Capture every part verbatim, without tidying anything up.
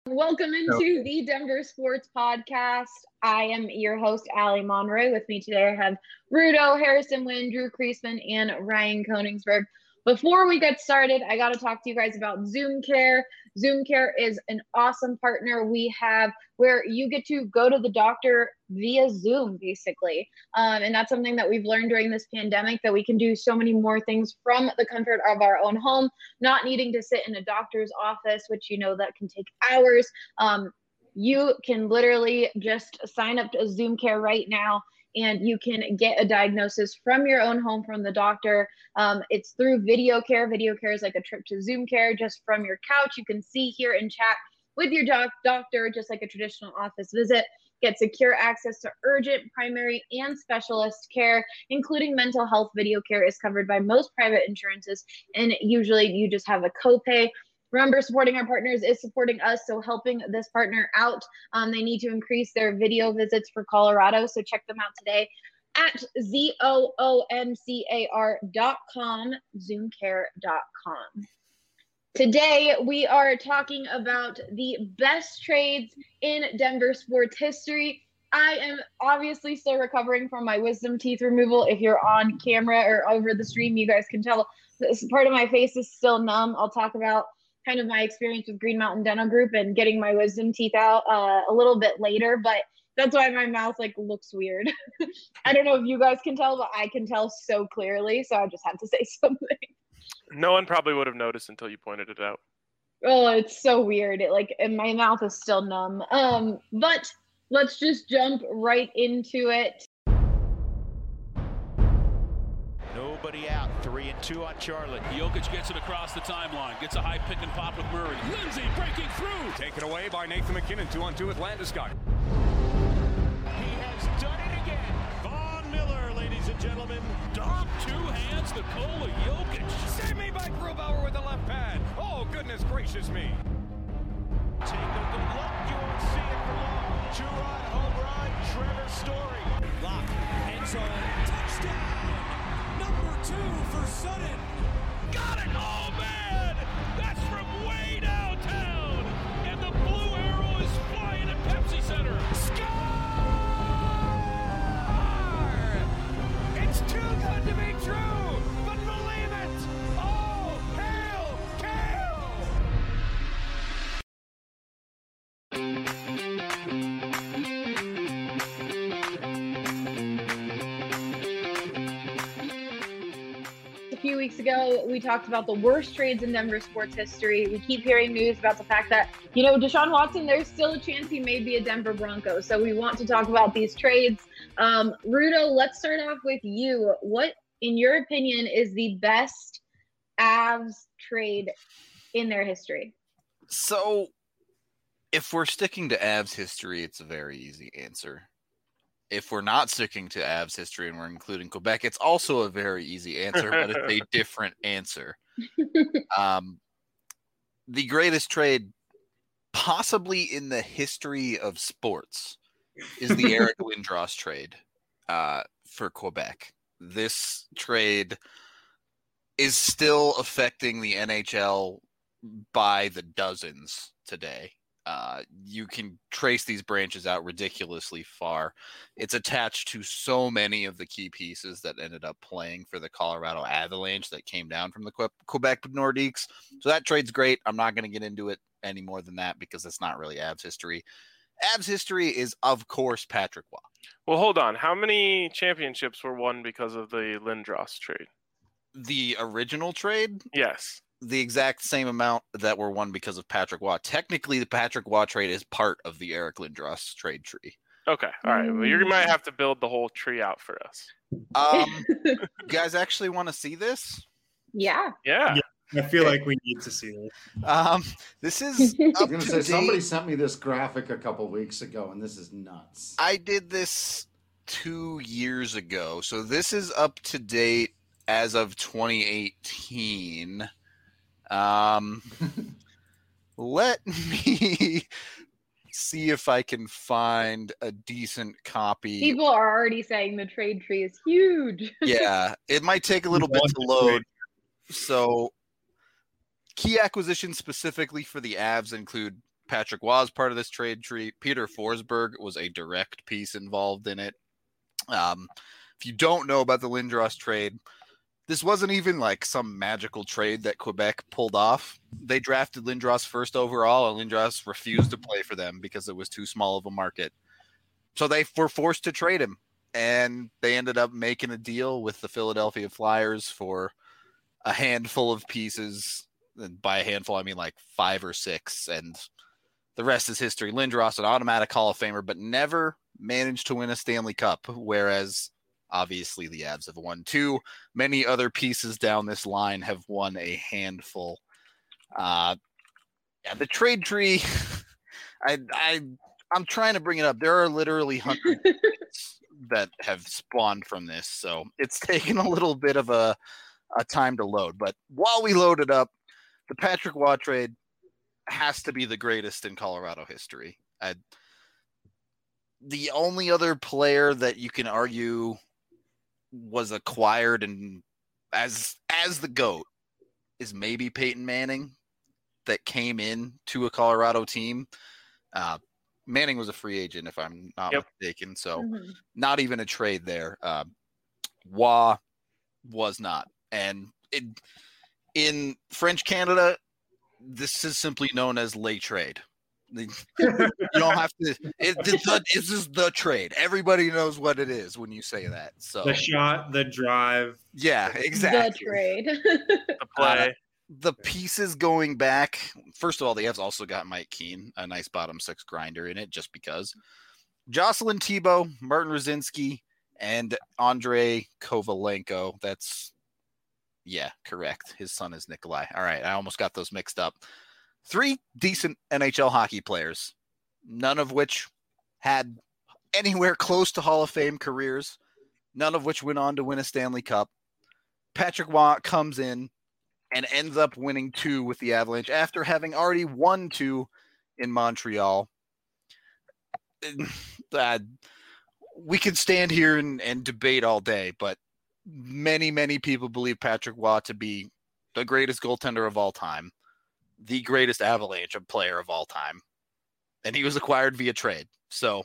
Welcome into the Denver Sports Podcast. I am your host, Allie Monroy. With me today, I have Rudo, Harrison Wynn, Drew Kreisman, and Ryan Koningsberg. Before we get started, I got to talk to you guys about Zoom Care. Zoom Care is an awesome partner we have where you get to go to the doctor via Zoom, basically. Um, and that's something that we've learned during this pandemic, that we can do so many more things from the comfort of our own home, not needing to sit in a doctor's office, which you know that can take hours. Um, you can literally just sign up to Zoom Care right now, and you can get a diagnosis from your own home from the doctor. Um, it's through video care. Video care is like a trip to Zoom Care just from your couch. You can see, hear, and chat with your doc- doctor, just like a traditional office visit. Get secure access to urgent, primary, and specialist care, including mental health. Video care is covered by most private insurances, and usually you just have a copay. Remember, supporting our partners is supporting us, so helping this partner out. Um, they need to increase their video visits for Colorado, so check them out today at Z O O M C A R dot com, zoom care dot com. Today, we are talking about the best trades in Denver sports history. I am obviously still recovering from my wisdom teeth removal. If you're on camera or over the stream, you guys can tell this part of my face is still numb. I'll talk about kind of my experience with Green Mountain Dental Group and getting my wisdom teeth out uh, a little bit later, but that's why my mouth like looks weird. I don't know if you guys can tell, but I can tell so clearly, so I just had to say something. No one probably would have noticed until you pointed it out. Oh, it's so weird. It like, and my mouth is still numb. Um, but let's just jump right into it. Nobody out. Three and two on Charlotte. Jokic gets it across the timeline. Gets a high pick and pop with Murray. Lindsay breaking through. Taken away by Nathan McKinnon. Two on two with Landeskog. He has done it again. Von Miller, ladies and gentlemen. Dog two hands Nikola Jokic. Save me by Grubauer with the left pad. Oh, goodness gracious me. Take a good look. You won't see it for long. Two-run home run. Trevor Story. Lock. End zone. Touchdown. Number two for Sutton. Got it. Oh, man. That's from way downtown. And the blue arrow is flying at Pepsi Center. Score! It's too good to be true, but believe it. Oh, hail, Kale! A few weeks ago, we talked about the worst trades in Denver sports history. We keep hearing news about the fact that, you know, Deshaun Watson, there's still a chance he may be a Denver Bronco. So we want to talk about these trades. Um, Rudo, let's start off with you. What, in your opinion, is the best Avs trade in their history? So if we're sticking to Avs history, it's a very easy answer. If we're not sticking to Avs history and we're including Quebec, it's also a very easy answer, but it's a different answer. Um, the greatest trade possibly in the history of sports is the Eric Lindros trade uh, for Quebec. This trade is still affecting the N H L by the dozens today. Uh, you can trace these branches out ridiculously far. It's attached to so many of the key pieces that ended up playing for the Colorado Avalanche that came down from the Que- Quebec Nordiques. So that trade's great. I'm not going to get into it any more than that because it's not really Avs history. Avs history is, of course, Patrick Waugh. Well, hold on. How many championships were won because of the Lindros trade? The original trade? Yes. The exact same amount that were won because of Patrick Waugh. Technically, the Patrick Waugh trade is part of the Eric Lindros trade tree. Okay. All right. Well, you might have to build the whole tree out for us. Um, you guys actually want to see this? Yeah. Yeah. yeah. I feel like we need to see this. Um, this is I up was going to to say, date. somebody sent me this graphic a couple weeks ago, and this is nuts. I did this two years ago. So this is up to date as of twenty eighteen. Um, let me see if I can find a decent copy. People are already saying the trade tree is huge. Yeah, it might take a little bit to load. So key acquisitions specifically for the Avs include Patrick was part of this trade tree. Peter Forsberg was a direct piece involved in it. Um, if you don't know about the Lindros trade, this wasn't even like some magical trade that Quebec pulled off. They drafted Lindros first overall, and Lindros refused to play for them because it was too small of a market. So they were forced to trade him, and they ended up making a deal with the Philadelphia Flyers for a handful of pieces. And by a handful, I mean like five or six, and the rest is history. Lindros, an automatic Hall of Famer, but never managed to win a Stanley Cup, whereas obviously the Avs have won two. Many other pieces down this line have won a handful. Uh, yeah, the trade tree, I, I, I'm trying to bring it up. There are literally hundreds that have spawned from this, so it's taken a little bit of a, a time to load. But while we load it up, the Patrick Roy trade has to be the greatest in Colorado history. I, the only other player that you can argue was acquired and as as the GOAT is maybe Peyton Manning, that came in to a Colorado team. Uh, Manning was a free agent, if I'm not yep. mistaken, so mm-hmm. not even a trade there. Uh, Roy was not, and it, in French Canada, this is simply known as Le Trade. You don't have to. It, the, this is the trade. Everybody knows what it is when you say that. So the shot, the drive. Yeah, exactly. The trade. The play. Uh, the pieces going back. First of all, the Avs also got Mike Keane, a nice bottom six grinder in it, just because. Jocelyn Thibault, Martin Rosinski, and Andrei Kovalenko. That's yeah, correct. His son is Nikolai. All right, I almost got those mixed up. Three decent N H L hockey players, none of which had anywhere close to Hall of Fame careers, none of which went on to win a Stanley Cup. Patrick Roy comes in and ends up winning two with the Avalanche after having already won two in Montreal. Uh, we could stand here and, and debate all day, but many, many people believe Patrick Roy to be the greatest goaltender of all time, the greatest Avalanche player of all time, and he was acquired via trade. So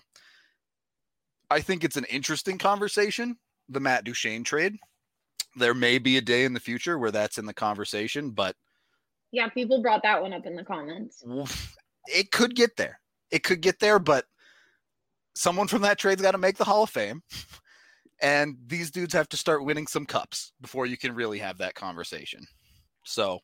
I think it's an interesting conversation, the Matt Duchene trade. There may be a day in the future where that's in the conversation, but yeah, people brought that one up in the comments. It could get there. It could get there, but someone from that trade's got to make the Hall of Fame, and these dudes have to start winning some cups before you can really have that conversation. So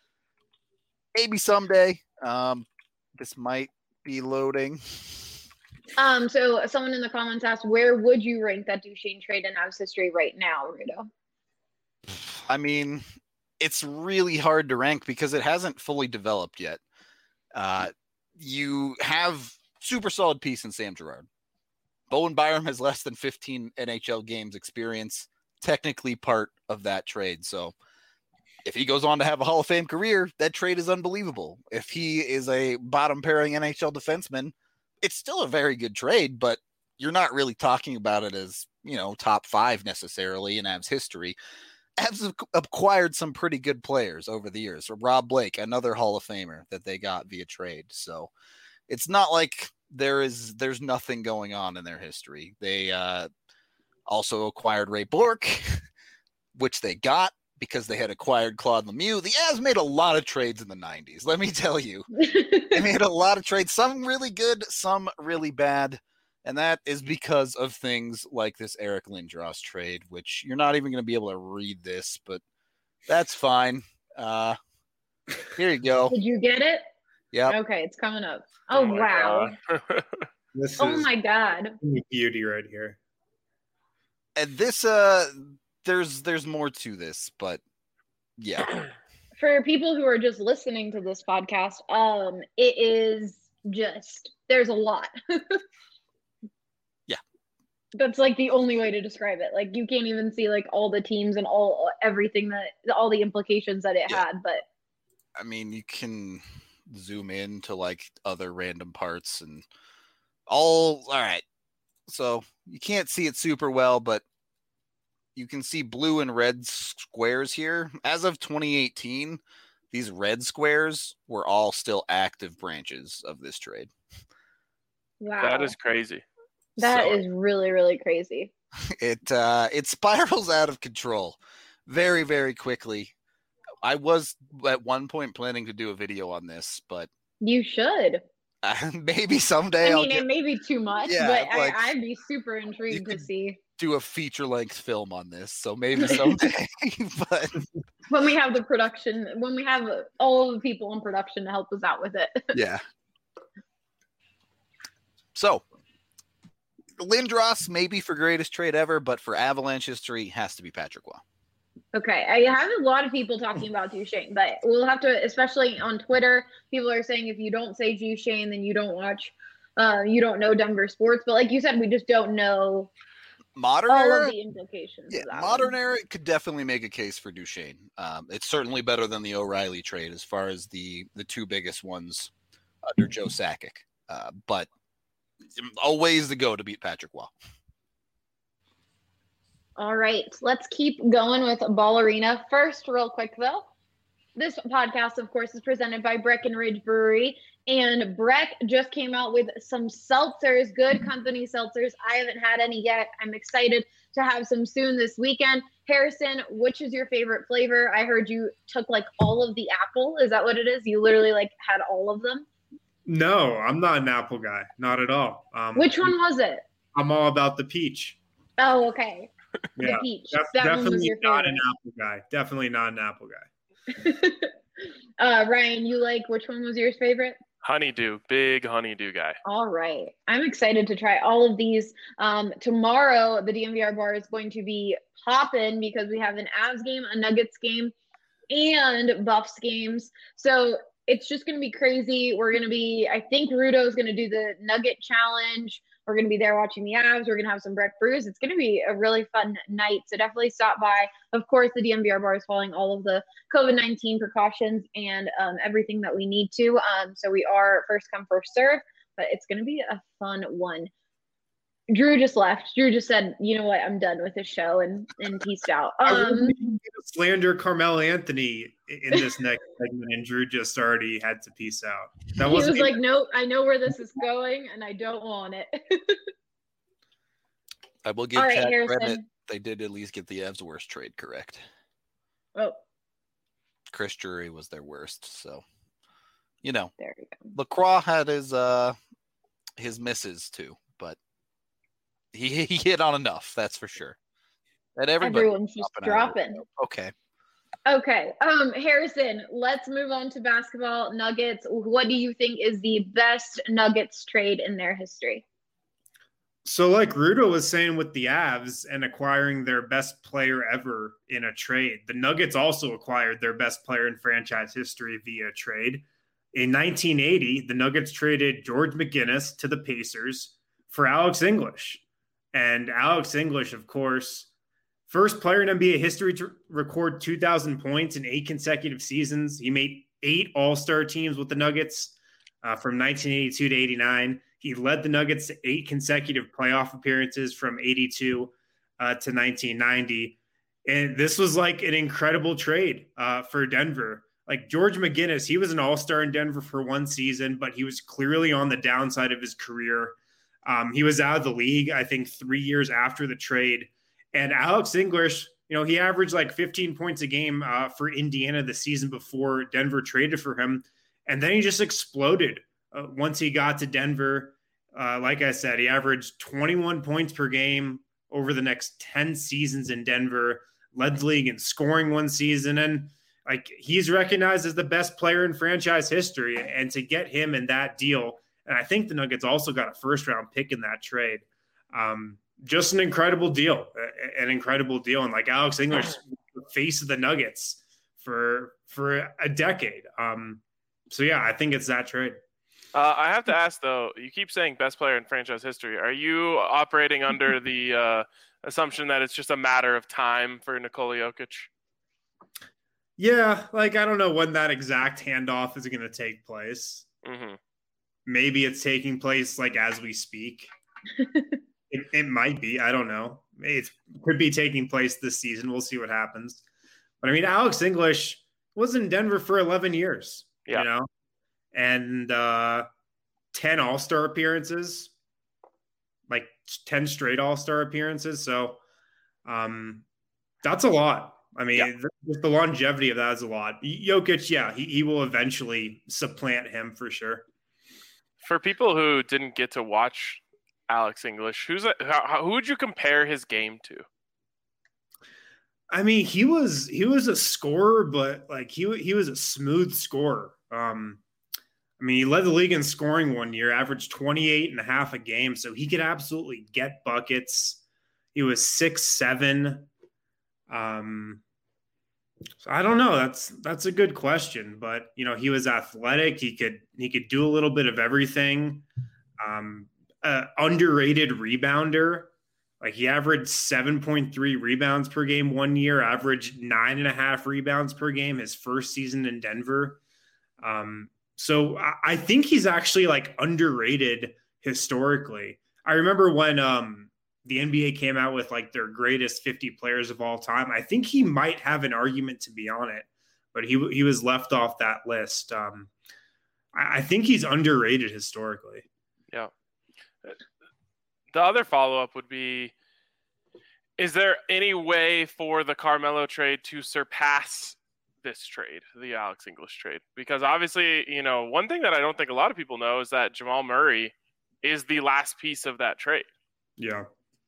maybe someday. Um, this might be loading. Um, so someone in the comments asked, where would you rank that Duchene trade in Avs history right now, Rudo? I mean, it's really hard to rank because it hasn't fully developed yet. Uh, you have super solid piece in Sam Girard. Bowen Byram has less than fifteen N H L games experience, technically part of that trade. So if he goes on to have a Hall of Fame career, that trade is unbelievable. If he is a bottom pairing N H L defenseman, it's still a very good trade, but you're not really talking about it as, you know, top five necessarily in Avs history. Avs have acquired some pretty good players over the years. So Rob Blake, another Hall of Famer that they got via trade. So it's not like there is, there's nothing going on in their history. They uh, also acquired Ray Bourque, which they got because they had acquired Claude Lemieux. The Avs made a lot of trades in the nineties. Let me tell you, they made a lot of trades, some really good, some really bad. And that is because of things like this Eric Lindros trade, which you're not even going to be able to read this, but that's fine. Uh, here you go. Did you get it? Yeah. Okay, it's coming up. Oh, oh wow. This oh is my God. beauty right here. And this, uh, there's there's more to this, but yeah. For people who are just listening to this podcast, um, it is just, there's a lot. Yeah. That's like the only way to describe it. Like you can't even see like all the teams and all everything that all the implications that it yeah. had. But I mean, you can zoom in to like other random parts and all. All right. So you can't see it super well, but you can see blue and red squares here. As of twenty eighteen, these red squares were all still active branches of this trade. Wow. That is crazy. That So- is really, really crazy. It uh, it spirals out of control very, very quickly. I was at one point planning to do a video on this, but You should. uh, maybe someday I I'll mean, get, it may be too much, Yeah, but like, I, I'd be super intrigued to could- see do a feature-length film on this. So maybe someday. But when we have the production, when we have all the people in production to help us out with it. yeah. So Lindros, maybe for greatest trade ever, but for Avalanche history, has to be Patrick Waugh. Okay, I have a lot of people talking about Duchesne, but we'll have to, especially on Twitter, people are saying if you don't say Duchesne, then you don't watch, uh, you don't know Denver sports. But like you said, we just don't know Modern all era, of the implications yeah, of that modern one. era could definitely make a case for Duchesne. Um, it's certainly better than the O'Reilly trade as far as the the two biggest ones under Joe Sakic. Uh, but a ways to go to beat Patrick Waugh. All right, let's keep going with Ball Arena. First, real quick though, this podcast, of course, is presented by Breckenridge Brewery, and Breck just came out with some seltzers, good company seltzers. I haven't had any yet. I'm excited to have some soon this weekend. Harrison, which is your favorite flavor? I heard you took like all of the apple. Is that what it is? You literally like had all of them? No, I'm not an apple guy. Not at all. Um, Which one was it? I'm all about the peach. Oh, okay. Yeah, The peach. def- That one was definitely your not an favorite. apple guy. Definitely not an apple guy. uh, Ryan, you like, which one was your favorite? Honeydew, big honeydew guy. All right. I'm excited to try all of these. Um, tomorrow, the D M V R bar is going to be popping because we have an Avs game, a Nuggets game, and Buffs games. So it's just going to be crazy. We're going to be, I think Rudo is going to do the Nugget Challenge. We're going to be there watching the Avs. We're going to have some Breck brews. It's going to be a really fun night. So definitely stop by. Of course, the D M V R bar is following all of the COVID nineteen precautions and um, everything that we need to. Um, so we are first come, first serve, but it's going to be a fun one. Drew just left. Drew just said, you know what, I'm done with this show and, and peaced out. I Um, wouldn't even slander Carmelo Anthony in this next segment, and Drew just already had to peace out. That he was wasn't like, nope, I know where this is going and I don't want it. I will give All right, Chad Harrison. credit. They did at least get the Avs' worst trade correct. Oh, Chris Drury was their worst. So, you know, there we go. LaCroix had his uh his misses too, but he he hit on enough, that's for sure. And everybody Everyone's just dropping. Okay. Okay. Um, Harrison, let's move on to basketball. Nuggets. What do you think is the best Nuggets trade in their history? So like Rudo was saying with the Avs and acquiring their best player ever in a trade, the Nuggets also acquired their best player in franchise history via trade. In nineteen eighty, the Nuggets traded George McGinnis to the Pacers for Alex English. And Alex English, of course, first player in N B A history to record two thousand points in eight consecutive seasons. He made eight All-Star teams with the Nuggets uh, from nineteen eighty-two to eighty-nine. He led the Nuggets to eight consecutive playoff appearances from eighty-two uh, to nineteen ninety. And this was like an incredible trade uh, for Denver. Like George McGinnis, he was an all-star in Denver for one season, but he was clearly on the downside of his career. Um, he was out of the league, I think, three years after the trade. And Alex English, you know, he averaged like fifteen points a game uh, for Indiana the season before Denver traded for him. And then he just exploded. Uh, once he got to Denver, uh, like I said, he averaged twenty-one points per game over the next ten seasons in Denver, led the league in scoring one season. And like he's recognized as the best player in franchise history. And to get him in that deal, and I think the Nuggets also got a first round pick in that trade. Um, just an incredible deal, an incredible deal. And like Alex English, the face of the Nuggets for, for a decade. Um, so yeah, I think it's that trade. Uh, I have to ask, though, you keep saying best player in franchise history. Are you operating under the uh, assumption that it's just a matter of time for Nikola Jokic? Yeah, like I don't know when that exact handoff is going to take place. Mm-hmm. Maybe it's taking place like as we speak. it, it might be. I don't know. It could be taking place this season. We'll see what happens. But I mean, Alex English, was in Denver for eleven years, yeah. you know, and uh, ten All-Star appearances, like ten straight All-Star appearances. So um, that's a lot. I mean, yeah. the, the longevity of that is a lot. Jokic, yeah, he, he will eventually supplant him for sure. For people who didn't get to watch Alex English, who's a, how, who would you compare his game to? I mean, he was he was a scorer, but like he he was a smooth scorer. Um, I mean, he led the league in scoring one year, averaged twenty-eight and a half a game, so he could absolutely get buckets. He was six seven. Um, so I don't know. That's that's a good question, but you know, he was athletic. He could he could do a little bit of everything. Um, uh, underrated rebounder. Like he averaged seven point three rebounds per game one year, averaged nine and a half rebounds per game his first season in Denver. Um, so I, I think he's actually like underrated historically. I remember when um, the N B A came out with like their greatest fifty players of all time. I think he might have an argument to be on it, but he he was left off that list. Um, I, I think he's underrated historically. Yeah. The other follow-up would be, is there any way for the Carmelo trade to surpass this trade, the Alex English trade? Because obviously, you know, one thing that I don't think a lot of people know is that Jamal Murray is the last piece of that trade. Yeah.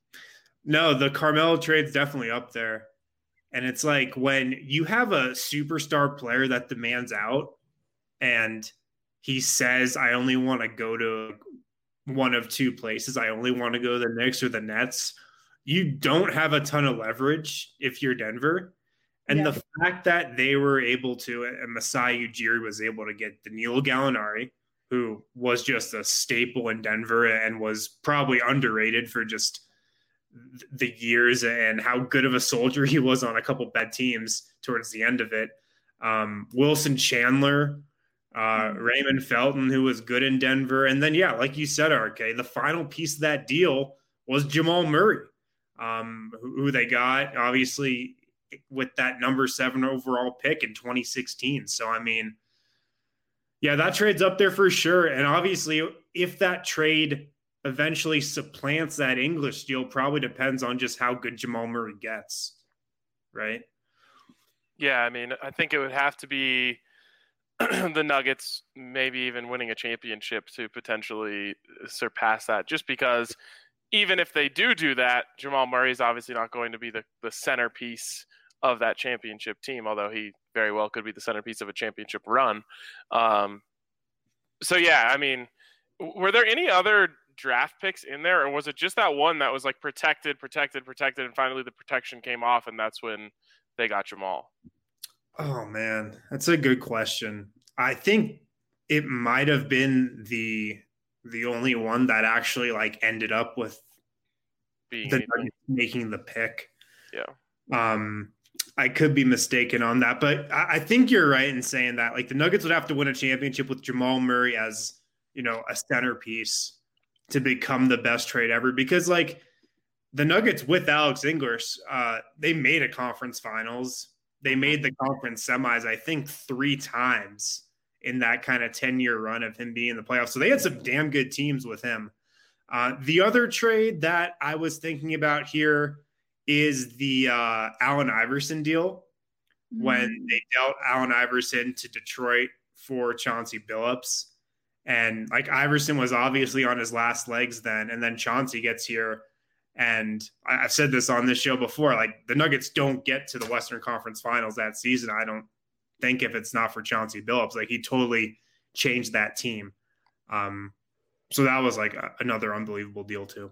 No, the Carmelo trade's definitely up there. And it's like when you have a superstar player that demands out and he says, I only want to go to one of two places. I only want to go to the Knicks or the Nets. You don't have a ton of leverage if you're Denver. And yeah. the fact that they were able to, and Masai Ujiri was able to get Danilo Gallinari, who was just a staple in Denver and was probably underrated for just the years and how good of a soldier he was on a couple bad teams towards the end of it. Um, Wilson Chandler, Uh, Raymond Felton, who was good in Denver. And then, yeah, like you said, R K, the final piece of that deal was Jamal Murray, um, who, who they got, obviously, with that number seven overall pick in twenty sixteen. So, I mean, yeah, that trade's up there for sure. And obviously, if that trade eventually supplants that English deal, probably depends on just how good Jamal Murray gets, right? Yeah, I mean, I think it would have to be the Nuggets maybe even winning a championship to potentially surpass that, just because even if they do do that, Jamal Murray is obviously not going to be the, the centerpiece of that championship team, although he very well could be the centerpiece of a championship run. Um, so, yeah, I mean, were there any other draft picks in there, or was it just that one that was like protected, protected, protected, and finally the protection came off and that's when they got Jamal? Oh, man, that's a good question. I think it might have been the the only one that actually like ended up with Being the Nuggets making the pick. Yeah. Um, I could be mistaken on that, but I, I think you're right in saying that like the Nuggets would have to win a championship with Jamal Murray as, you know, a centerpiece to become the best trade ever, because like the Nuggets with Alex English, uh, they made a conference finals. They made the conference semis, I think, three times in that kind of ten-year run of him being in the playoffs. So they had some damn good teams with him. Uh, the other trade that I was thinking about here is the uh, Allen Iverson deal, mm-hmm. when they dealt Allen Iverson to Detroit for Chauncey Billups. And, like, Iverson was obviously on his last legs then, and then Chauncey gets here. And I've said this on this show before, like the Nuggets don't get to the Western Conference Finals that season, I don't think, if it's not for Chauncey Billups. Like he totally changed that team. Um, so that was like a, another unbelievable deal too.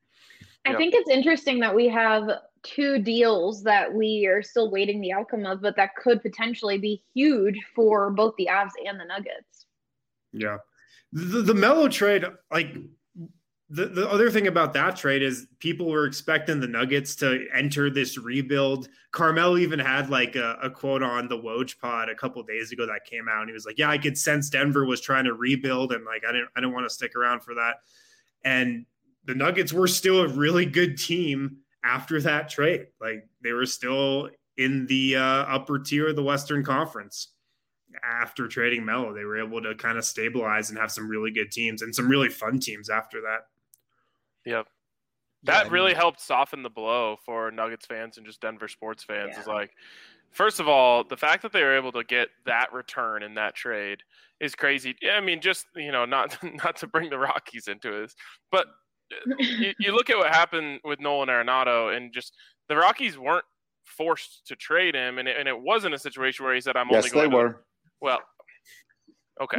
I yep. think it's interesting that we have two deals that we are still waiting the outcome of, but that could potentially be huge for both the Avs and the Nuggets. Yeah. The, the Melo trade, like, The the other thing about that trade is people were expecting the Nuggets to enter this rebuild. Carmelo even had like a, a quote on the Woj pod a couple of days ago that came out, and he was like, "Yeah, I could sense Denver was trying to rebuild, and like I didn't I didn't want to stick around for that." And the Nuggets were still a really good team after that trade. Like they were still in the uh, upper tier of the Western Conference. After trading Melo, they were able to kind of stabilize and have some really good teams and some really fun teams after that. Yep. That Yeah, really I mean, helped soften the blow for Nuggets fans and just Denver sports fans. Yeah. Is like, first of all, the fact that they were able to get that return in that trade is crazy. I mean, just, you know, not not to bring the Rockies into this, but you, you look at what happened with Nolan Arenado, and just the Rockies weren't forced to trade him, and it, and it wasn't a situation where he said, "I'm Yes, only going." they to were. Well, okay.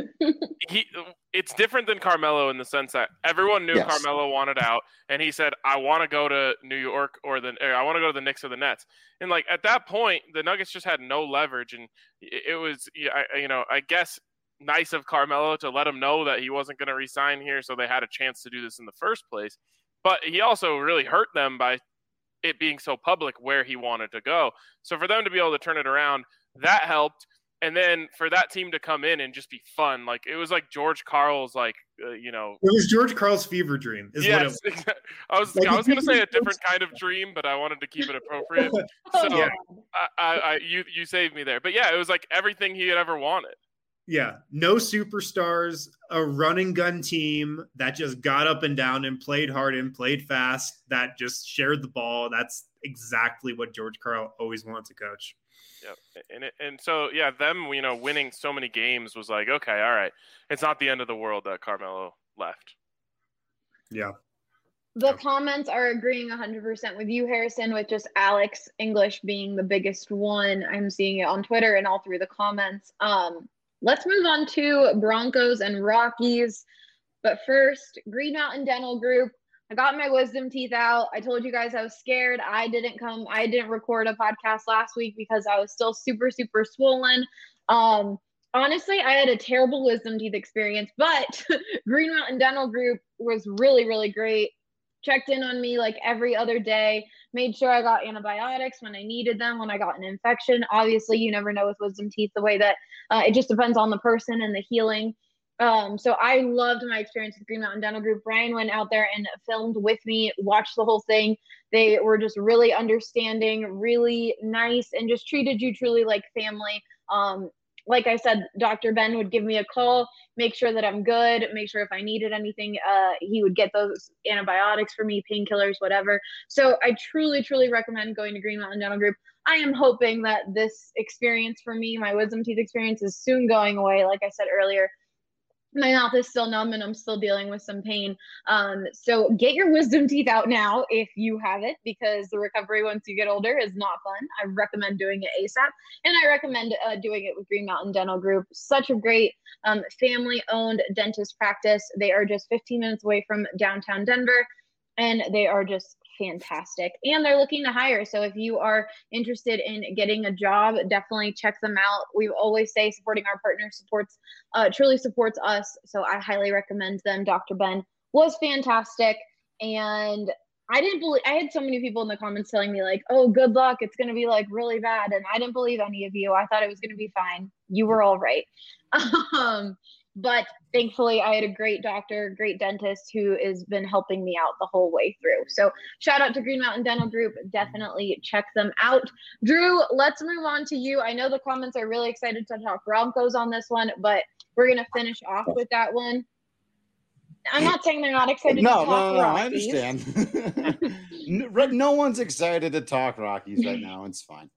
he it's different than Carmelo in the sense that everyone knew Yes. Carmelo wanted out, and he said, "I want to go to New York or the or I want to go to the Knicks or the Nets." And like at that point, the Nuggets just had no leverage, and it, it was you know I guess nice of Carmelo to let him know that he wasn't going to resign here, so they had a chance to do this in the first place. But he also really hurt them by it being so public where he wanted to go. So for them to be able to turn it around, that helped. And then for that team to come in and just be fun, like it was like George Karl's, like uh, you know, It was George Karl's fever dream. Is yes, what it was. I was Like, I was if going to say you- a different kind of dream, but I wanted to keep it appropriate. So Yeah. I, I, I, you you saved me there. But yeah, it was like everything he had ever wanted. Yeah, no superstars, a running gun team that just got up and down and played hard and played fast, that just shared the ball. That's exactly what George Karl always wanted to coach. Yeah, and it, and so yeah, them you know winning so many games was like, okay, all right, it's not the end of the world that Carmelo left. Yeah. The comments are agreeing one hundred percent with you, Harrison, with just Alex English being the biggest one. I'm seeing it on Twitter and all through the comments. Um, let's move on to Broncos and Rockies. But first, Green Mountain Dental Group. I got my wisdom teeth out. I told you guys I was scared. I didn't come, I didn't record a podcast last week because I was still super, super swollen. Um, honestly, I had a terrible wisdom teeth experience, but Green Mountain Dental Group was really, really great. Checked in on me like every other day, made sure I got antibiotics when I needed them, when I got an infection. Obviously, you never know with wisdom teeth the way that uh, it just depends on the person and the healing. Um, so I loved my experience with Green Mountain Dental Group. Brian went out there and filmed with me, watched the whole thing. They were just really understanding, really nice, and just treated you truly like family. Um, like I said, Doctor Ben would give me a call, make sure that I'm good, make sure if I needed anything, uh, he would get those antibiotics for me, painkillers, whatever. So I truly, truly recommend going to Green Mountain Dental Group. I am hoping that this experience for me, my wisdom teeth experience, is soon going away. Like I said earlier, my mouth is still numb and I'm still dealing with some pain. Um, so get your wisdom teeth out now if you have it, because the recovery once you get older is not fun. I recommend doing it ASAP, and I recommend uh, doing it with Green Mountain Dental Group. Such a great um, family-owned dentist practice. They are just fifteen minutes away from downtown Denver, and they are just fantastic. And they're looking to hire. So if you are interested in getting a job, definitely check them out. We always say supporting our partners supports, uh, truly supports us. So I highly recommend them. Doctor Ben was fantastic. And I didn't believe, I had so many people in the comments telling me like, oh, good luck, it's going to be like really bad. And I didn't believe any of you. I thought it was going to be fine. You were all right. Um, But thankfully, I had a great doctor, great dentist who has been helping me out the whole way through. So shout out to Green Mountain Dental Group. Definitely check them out. Drew, let's move on to you. I know the comments are really excited to talk Broncos on this one, but we're going to finish off with that one. I'm not saying they're not excited No, to talk no, no, no, I Rockies. understand. no, no one's excited to talk Rockies right now. It's fine.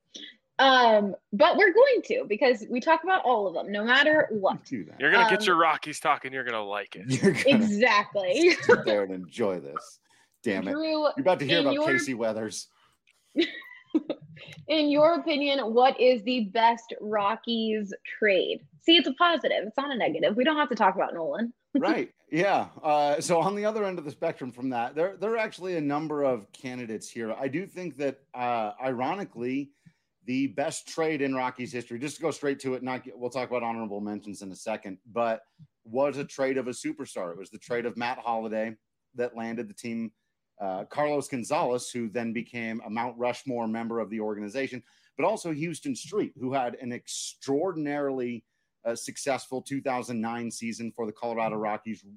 Um, but we're going to, because we talk about all of them, no matter what. Do that. You're gonna Um, get your Rockies talking. You're gonna like it. You're gonna Exactly. sit there and enjoy this. Damn it. Drew, You're about to hear in about your- Casey Weathers. in your opinion, what is the best Rockies trade? See, it's a positive. It's not a negative. We don't have to talk about Nolan. Right. Yeah. Uh, so on the other end of the spectrum from that, there, there are actually a number of candidates here. I do think that, uh, ironically, the best trade in Rockies history, just to go straight to it, not get, we'll talk about honorable mentions in a second, but was a trade of a superstar. It was the trade of Matt Holliday that landed the team uh, Carlos Gonzalez, who then became a Mount Rushmore member of the organization, but also Houston Street, who had an extraordinarily uh, successful two thousand nine season for the Colorado Rockies,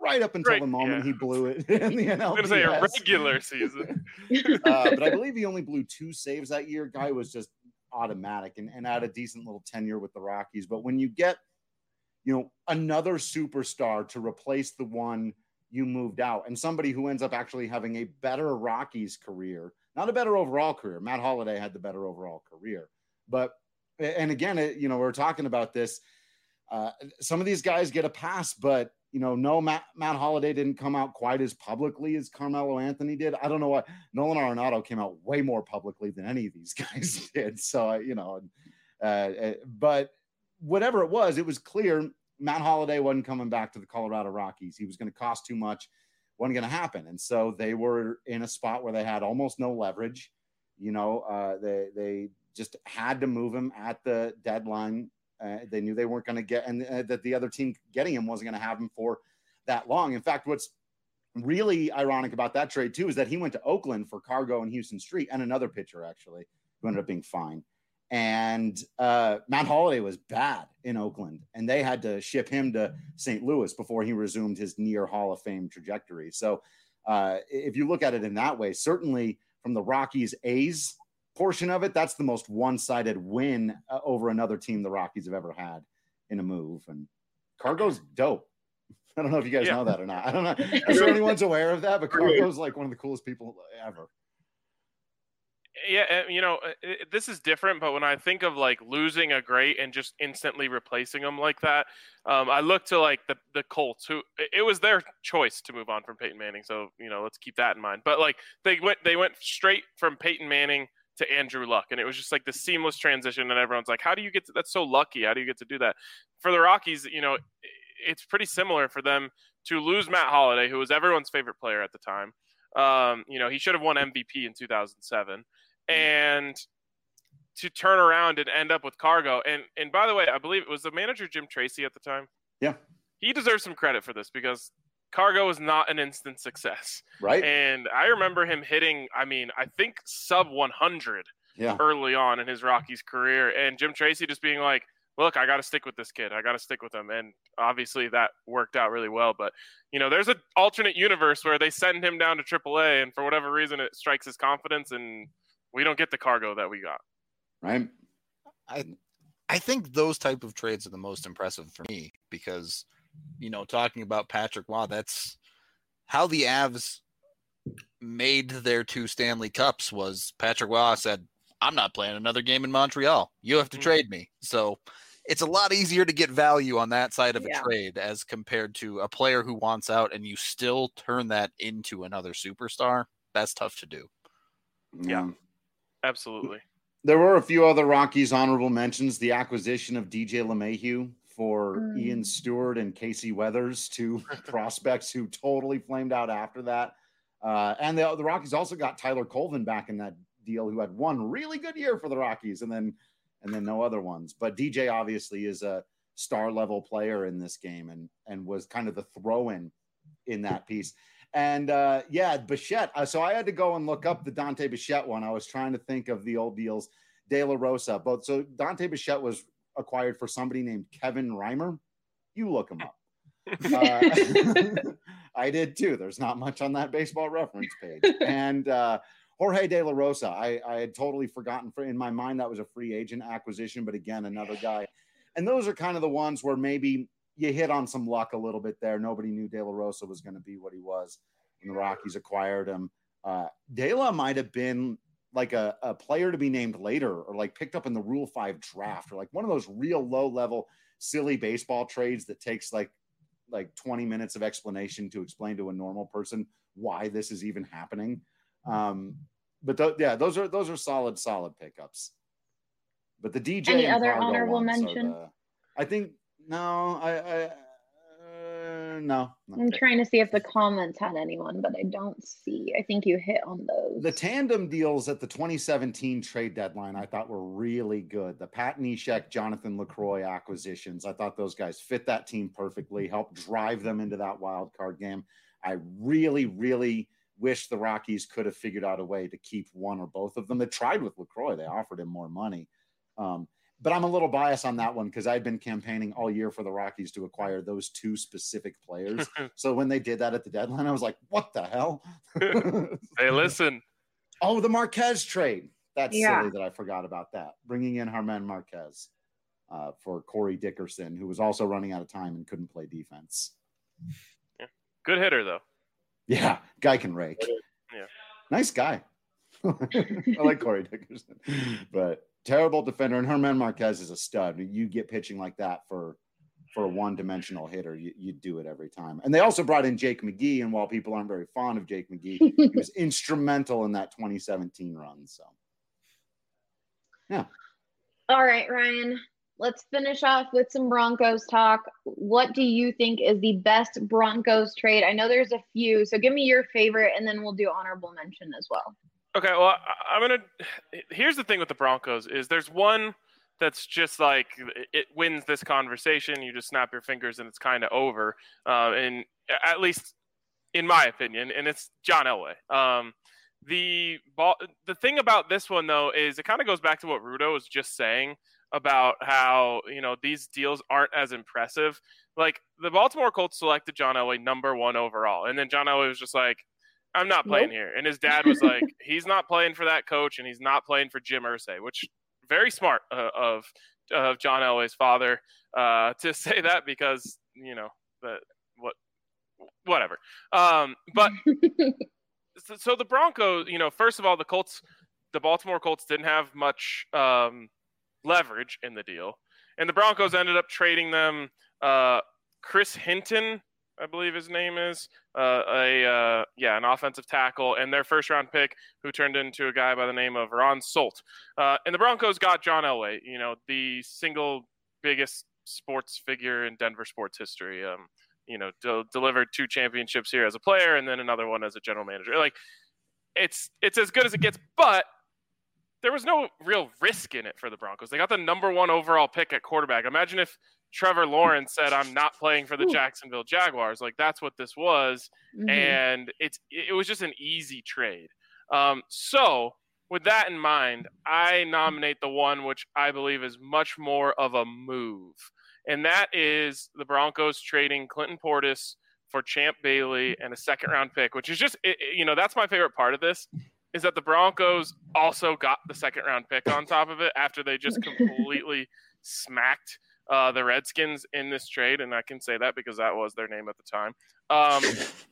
right up until right, the moment yeah. he blew it in the N L D S. I was going to say a regular season. uh, but I believe he only blew two saves that year. Guy was just automatic and, and had a decent little tenure with the Rockies. But when you get, you know, another superstar to replace the one you moved out, and somebody who ends up actually having a better Rockies career, not a better overall career. Matt Holliday had the better overall career. But, and again, it, you know, we're talking about this. Uh, some of these guys get a pass, but, you know, no, Matt, Matt Holliday didn't come out quite as publicly as Carmelo Anthony did. I don't know what Nolan Arenado came out way more publicly than any of these guys did. So, you know, uh, but whatever it was, it was clear Matt Holliday wasn't coming back to the Colorado Rockies. He was going to cost too much, wasn't going to happen. And so they were in a spot where they had almost no leverage. You know, uh, they, they just had to move him at the deadline. Uh, they knew they weren't going to get, and uh, that the other team getting him wasn't going to have him for that long. In fact, what's really ironic about that trade too is that he went to Oakland for Cargo and Houston Street and another pitcher actually who ended up being fine. And uh, Matt Holliday was bad in Oakland, and they had to ship him to Saint Louis before he resumed his near Hall of Fame trajectory. So uh, if you look at it in that way, certainly from the Rockies A's portion of it, that's the most one-sided win uh, over another team the Rockies have ever had in a move. And Cargo's dope. I don't know if you guys yeah. know that or not. I don't know. I'm sure anyone's aware of that, but Cargo's like one of the coolest people ever. Yeah, you know, this is different, but when I think of like losing a great and just instantly replacing them like that, um, I look to like the, the Colts, who it was their choice to move on from Peyton Manning. So, you know, let's keep that in mind. But like they went, they went straight from Peyton Manning to Andrew Luck, and it was just like the seamless transition, and everyone's like, how do you get to, that's so lucky, how do you get to do that? For the Rockies, you know, it's pretty similar for them to lose Matt Holliday, who was everyone's favorite player at the time. Um, you know, he should have won M V P in two thousand seven, and to turn around and end up with Cargo. And and by the way, I believe it was the manager Jim Tracy at the time. Yeah, he deserves some credit for this because Cargo is not an instant success. Right. And I remember him hitting, I mean, I think sub one hundred yeah. early on in his Rockies career. And Jim Tracy just being like, look, I got to stick with this kid. I got to stick with him. And obviously that worked out really well. But, you know, there's an alternate universe where they send him down to triple A, and for whatever reason it strikes his confidence, and we don't get the Cargo that we got. Right. I I think those type of trades are the most impressive for me because, you know, talking about Patrick Waugh, that's how the Avs made their two Stanley Cups. Was Patrick Waugh said, I'm not playing another game in Montreal. You have to mm-hmm. trade me. So it's a lot easier to get value on that side of yeah. a trade as compared to a player who wants out and you still turn that into another superstar. That's tough to do. Yeah, absolutely. There were a few other Rockies honorable mentions. The acquisition of D J LeMahieu for mm. Ian Stewart and Casey Weathers, two prospects who totally flamed out after that. Uh, and the, the Rockies also got Tyler Colvin back in that deal, who had one really good year for the Rockies and then and then no other ones. But D J obviously is a star level player in this game and and was kind of the throw-in in that piece. And uh, yeah, Bichette. Uh, so I had to go and look up the Dante Bichette one. I was trying to think of the old deals. De La Rosa, both. So Dante Bichette was acquired for somebody named Kevin Reimer. You look him up. Uh, I did too. There's not much on that Baseball Reference page. And uh, Jorge De La Rosa, I, I had totally forgotten. For in my mind, that was a free agent acquisition. But again, another guy. And those are kind of the ones where maybe you hit on some luck a little bit there. Nobody knew De La Rosa was going to be what he was when the Rockies acquired him. Uh, De La might have been like a, a player to be named later or like picked up in the Rule five draft or like one of those real low level, silly baseball trades that takes like, like twenty minutes of explanation to explain to a normal person why this is even happening. Um, but th- yeah, those are, those are solid, solid pickups. But the D J, any other honorable mention? The, I think, no, I, I uh, no. I'm trying to see if the comments had anyone, but I don't see. I think you hit on those. The tandem deals at the twenty seventeen trade deadline, I thought were really good. The Pat Neshek, Jonathan LaCroix acquisitions, I thought those guys fit that team perfectly, helped drive them into that wild card game. I really, really wish the Rockies could have figured out a way to keep one or both of them. They tried with LaCroix. They offered him more money. Um, but I'm a little biased on that one because I'd been campaigning all year for the Rockies to acquire those two specific players. So when they did that at the deadline, I was like, what the hell? Hey, listen. Oh, the Marquez trade. That's Yeah. silly that I forgot about that. Bringing in Germán Marquez uh, for Corey Dickerson, who was also running out of time and couldn't play defense. Yeah. Good hitter, though. Yeah, guy can rake. Yeah. Nice guy. I like Corey Dickerson. But terrible defender. And Germán Marquez is a stud. You get pitching like that for for a one-dimensional hitter, you, you do it every time. And they also brought in Jake McGee, and while people aren't very fond of Jake McGee, he was instrumental in that twenty seventeen run. So, yeah. All right, Ryan, let's finish off with some Broncos talk. What do you think is the best Broncos trade? I know there's a few, so give me your favorite, and then we'll do honorable mention as well. Okay, well, I'm going to – here's the thing with the Broncos is there's one that's just like it wins this conversation. You just snap your fingers and it's kind of over, uh, and at least in my opinion, and it's John Elway. Um, the ball, the thing about this one, though, is it kind of goes back to what Rudo was just saying about how, you know, these deals aren't as impressive. Like, the Baltimore Colts selected John Elway number one overall, and then John Elway was just like, I'm not playing nope. here. And his dad was like, he's not playing for that coach, and he's not playing for Jim Irsay, which very smart uh, of of John Elway's father uh, to say that because, you know, that what whatever. Um, but so, so the Broncos, you know, first of all, the Colts, the Baltimore Colts didn't have much um, leverage in the deal, and the Broncos ended up trading them uh, Chris Hinton, I believe his name is, uh, a uh, yeah, an offensive tackle, and their first round pick, who turned into a guy by the name of Ron Solt. Uh, and the Broncos got John Elway, you know, the single biggest sports figure in Denver sports history. Um, you know, de- delivered two championships here as a player, and then another one as a general manager. Like, it's it's as good as it gets, but there was no real risk in it for the Broncos. They got the number one overall pick at quarterback. Imagine if Trevor Lawrence said, I'm not playing for the Jacksonville Jaguars. Like, that's what this was. Mm-hmm. And it's, it was just an easy trade. Um, so with that in mind, I nominate the one which I believe is much more of a move. And that is the Broncos trading Clinton Portis for Champ Bailey and a second round pick, which is just, it, you know, that's my favorite part of this, is that the Broncos also got the second round pick on top of it after they just completely smacked Uh, the Redskins in this trade, and I can say that because that was their name at the time. Um,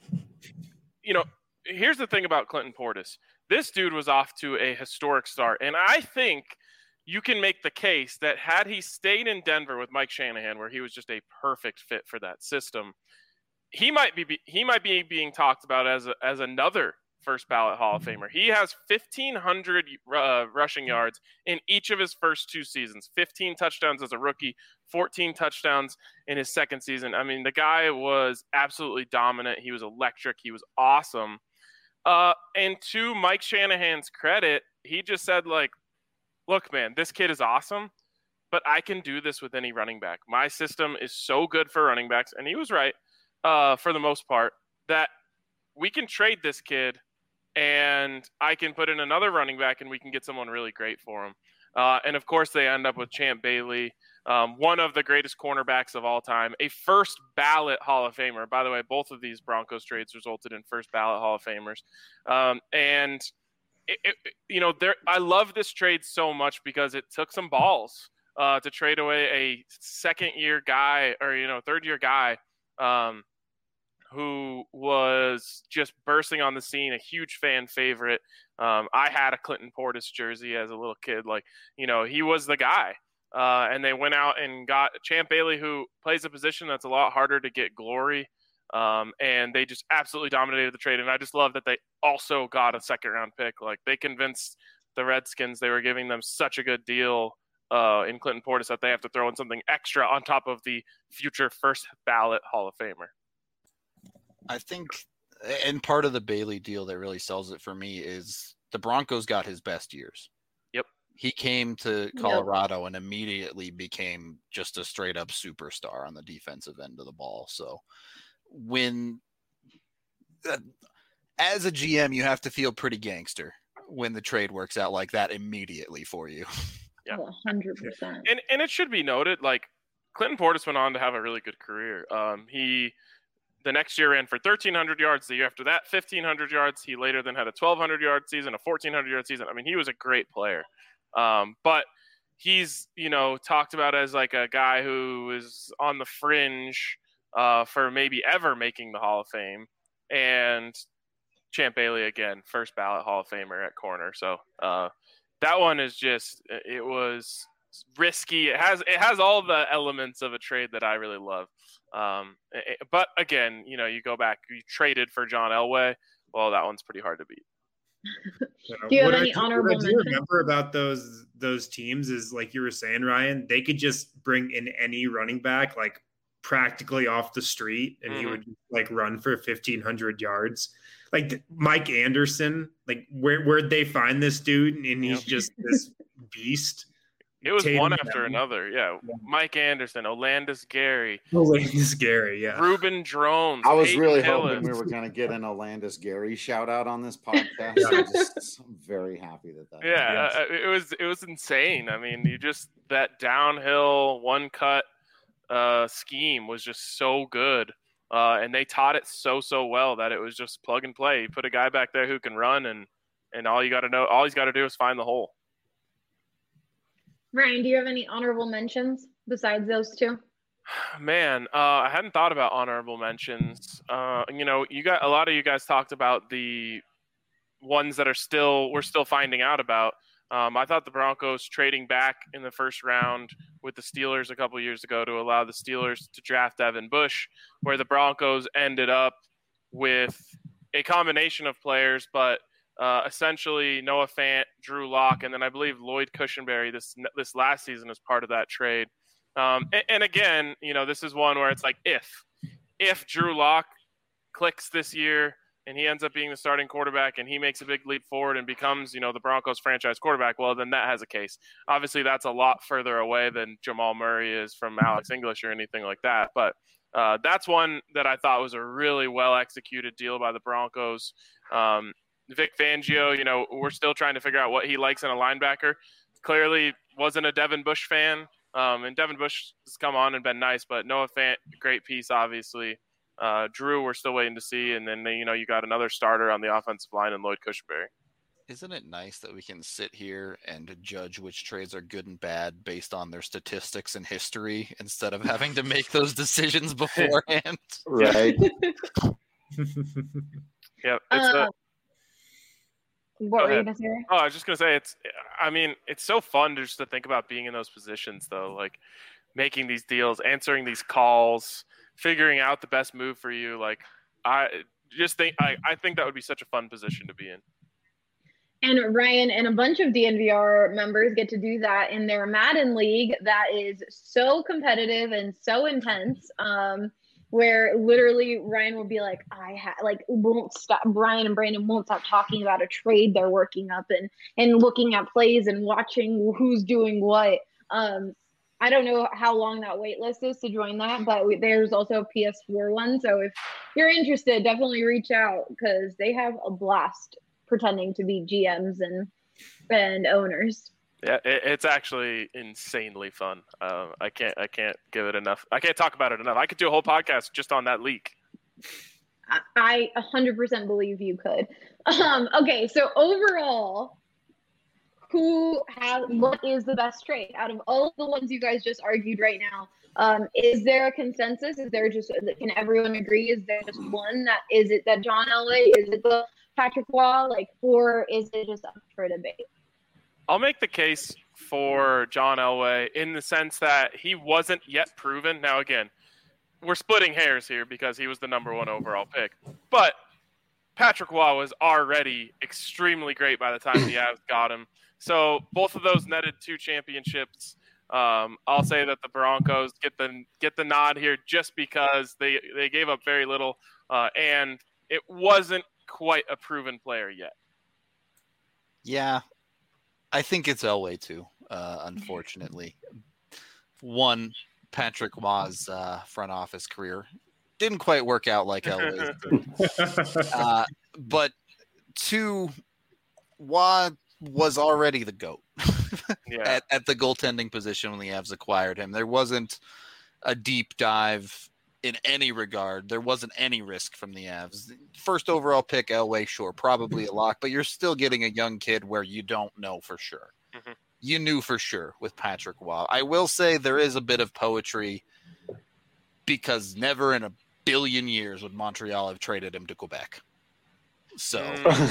you know, here's the thing about Clinton Portis. This dude was off to a historic start, and I think you can make the case that had he stayed in Denver with Mike Shanahan, where he was just a perfect fit for that system, he might be he might be being talked about as a, as another first ballot Hall of Famer. He has fifteen hundred uh, rushing yards in each of his first two seasons, fifteen touchdowns as a rookie, fourteen touchdowns in his second season. I mean, the guy was absolutely dominant. He was electric. He was awesome. Uh, and to Mike Shanahan's credit, he just said, like, look, man, this kid is awesome, but I can do this with any running back. My system is so good for running backs. And he was right uh, for the most part, that we can trade this kid and I can put in another running back and we can get someone really great for him. Uh, and, of course, they end up with Champ Bailey, um, one of the greatest cornerbacks of all time, a first ballot Hall of Famer. By the way, both of these Broncos trades resulted in first ballot Hall of Famers. Um, and, it, it, you know, there, I love this trade so much because it took some balls uh, to trade away a second-year guy or, you know, third-year guy um, who was just bursting on the scene, a huge fan favorite. Um, I had a Clinton Portis jersey as a little kid. Like, you know, he was the guy. Uh, and they went out and got Champ Bailey, who plays a position that's a lot harder to get glory. Um, and they just absolutely dominated the trade. And I just love that they also got a second round pick. Like, they convinced the Redskins they were giving them such a good deal uh, in Clinton Portis that they have to throw in something extra on top of the future first ballot Hall of Famer. I think, and part of the Bailey deal that really sells it for me is the Broncos got his best years. Yep. He came to Colorado yep. and immediately became just a straight up superstar on the defensive end of the ball. So when, uh, as a G M, you have to feel pretty gangster when the trade works out like that immediately for you. Yeah, one hundred percent. And and it should be noted, like Clinton Portis went on to have a really good career. Um, he the next year ran for thirteen hundred yards. The year after that, fifteen hundred yards. He later then had a twelve hundred yard season, a fourteen hundred yard season. I mean, he was a great player. Um, but he's, you know, talked about as like a guy who is on the fringe uh, for maybe ever making the Hall of Fame. And Champ Bailey, again, first ballot Hall of Famer at corner. So uh, that one is just, it was risky. It has, it has all the elements of a trade that I really love. Um, it, but again, you know, you go back, you traded for John Elway. Well, that one's pretty hard to beat. Do you have what any I, honorable what I do mentions? remember about those those teams is, like you were saying, Ryan, they could just bring in any running back, like practically off the street, and mm-hmm. he would like run for fifteen hundred yards. Like Mike Anderson, like where where'd they find this dude? And he's just this beast. It was Tatum one after Brown. another, yeah. yeah. Mike Anderson, Olandis Gary, Olandis Gary, yeah. Ruben Drones. I was Peyton really Hillis. hoping we were going to get an Olandis Gary shout out on this podcast. I'm just I'm very happy that that. Yeah, uh, it was it was insane. I mean, you just that downhill one cut uh, scheme was just so good, uh, and they taught it so so well that it was just plug and play. You put a guy back there who can run, and and all you got to know, all he's got to do is find the hole. Ryan, do you have any honorable mentions besides those two? Man, uh, I hadn't thought about honorable mentions. Uh, you know, you got a lot of you guys talked about the ones that are still we're still finding out about. Um, I thought the Broncos trading back in the first round with the Steelers a couple years ago to allow the Steelers to draft Devin Bush, where the Broncos ended up with a combination of players, but Uh, essentially Noah Fant, Drew Lock, and then I believe Lloyd Cushenberry this this last season as part of that trade. Um, and, and again, you know, this is one where it's like if if Drew Lock clicks this year and he ends up being the starting quarterback and he makes a big leap forward and becomes, you know, the Broncos franchise quarterback, well, then that has a case. Obviously, that's a lot further away than Jamal Murray is from Alex English or anything like that. But uh, that's one that I thought was a really well executed deal by the Broncos. Um, Vic Fangio, you know, we're still trying to figure out what he likes in a linebacker. Clearly wasn't a Devin Bush fan. Um, and Devin Bush has come on and been nice, but Noah Fant, great piece, obviously. Uh, Drew, we're still waiting to see. And then, you know, you got another starter on the offensive line in Lloyd Cushenberry. Isn't it nice that we can sit here and judge which trades are good and bad based on their statistics and history instead of having to make those decisions beforehand? Right. Yep. It's Uh, a, What Go were you ahead. going to say? Oh, I was just gonna say it's. I mean, it's so fun to just to think about being in those positions, though. Like making these deals, answering these calls, figuring out the best move for you. Like I just think I, I think that would be such a fun position to be in. And Ryan and a bunch of D N V R members get to do that in their Madden League that is so competitive and so intense. Um, where literally Ryan will be like, I ha like won't stop. Brian and Brandon won't stop talking about a trade they're working up and and looking at plays and watching who's doing what. Um, I don't know how long that wait list is to join that, but we, there's also a P S four one. So if you're interested, definitely reach out because they have a blast pretending to be G Ms and and owners. Yeah, it, it's actually insanely fun. Uh, I can't, I can't give it enough. I can't talk about it enough. I could do a whole podcast just on that leak. I one hundred percent believe you could. Um, okay, so overall, who has what is the best trade out of all of the ones you guys just argued right now? Um, is there a consensus? Is there just can everyone agree? Is there just one that is it that John Elway? Is it the Patrick Waugh? Like, or is it just up for debate? I'll make the case for John Elway in the sense that he wasn't yet proven. Now, again, we're splitting hairs here because he was the number one overall pick. But Patrick Waugh was already extremely great by the time the Avs got him. So both of those netted two championships. Um, I'll say that the Broncos get the get the nod here just because they, they gave up very little, uh, and it wasn't quite a proven player yet. Yeah. I think it's Elway too, uh, unfortunately. One, Patrick Waugh's uh, front office career didn't quite work out like Elway's did. Uh, but two, Waugh was already the GOAT. Yeah. at, at the goaltending position when the Avs acquired him. There wasn't a deep dive in any regard. There wasn't any risk from the Avs. First overall pick, Elway, sure, probably a lock, but you're still getting a young kid where you don't know for sure. Mm-hmm. You knew for sure with Patrick Roy. I will say there is a bit of poetry because never in a billion years would Montreal have traded him to Quebec. So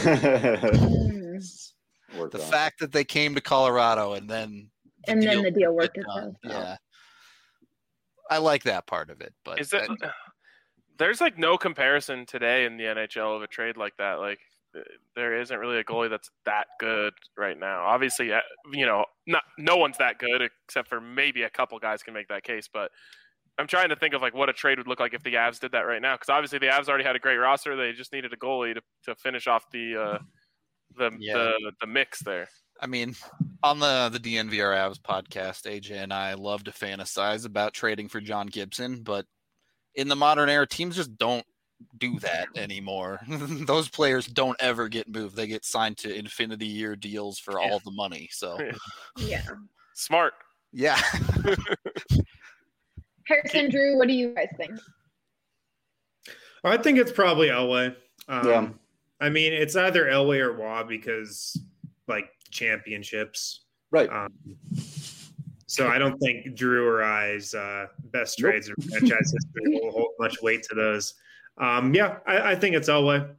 Mm. Worked the out. fact that they came to Colorado and then the And then deal the deal was worked done, itself out. yeah, I like that part of it. But Is it? There's like no comparison today in the N H L of a trade like that. Like there isn't really a goalie that's that good right now. Obviously, you know, not no one's that good except for maybe a couple guys can make that case. But I'm trying to think of like what a trade would look like if the Avs did that right now. Because obviously the Avs already had a great roster. They just needed a goalie to, to finish off the uh, the, Yeah. the the mix there. I mean, on the the D N V R Avs podcast, A J and I love to fantasize about trading for John Gibson, but in the modern era, teams just don't do that anymore. Those players don't ever get moved. They get signed to infinity year deals for all the money. So, Yeah. Smart. yeah. Harrison, Drew, what do you guys think? I think it's probably Elway. Um, Yeah. I mean, it's either Elway or Waugh because, like, championships. Right. Um, so I don't think Drew or I's uh, best Nope. trades in franchise history will hold much weight to those. Um, yeah, I, I think it's Elway.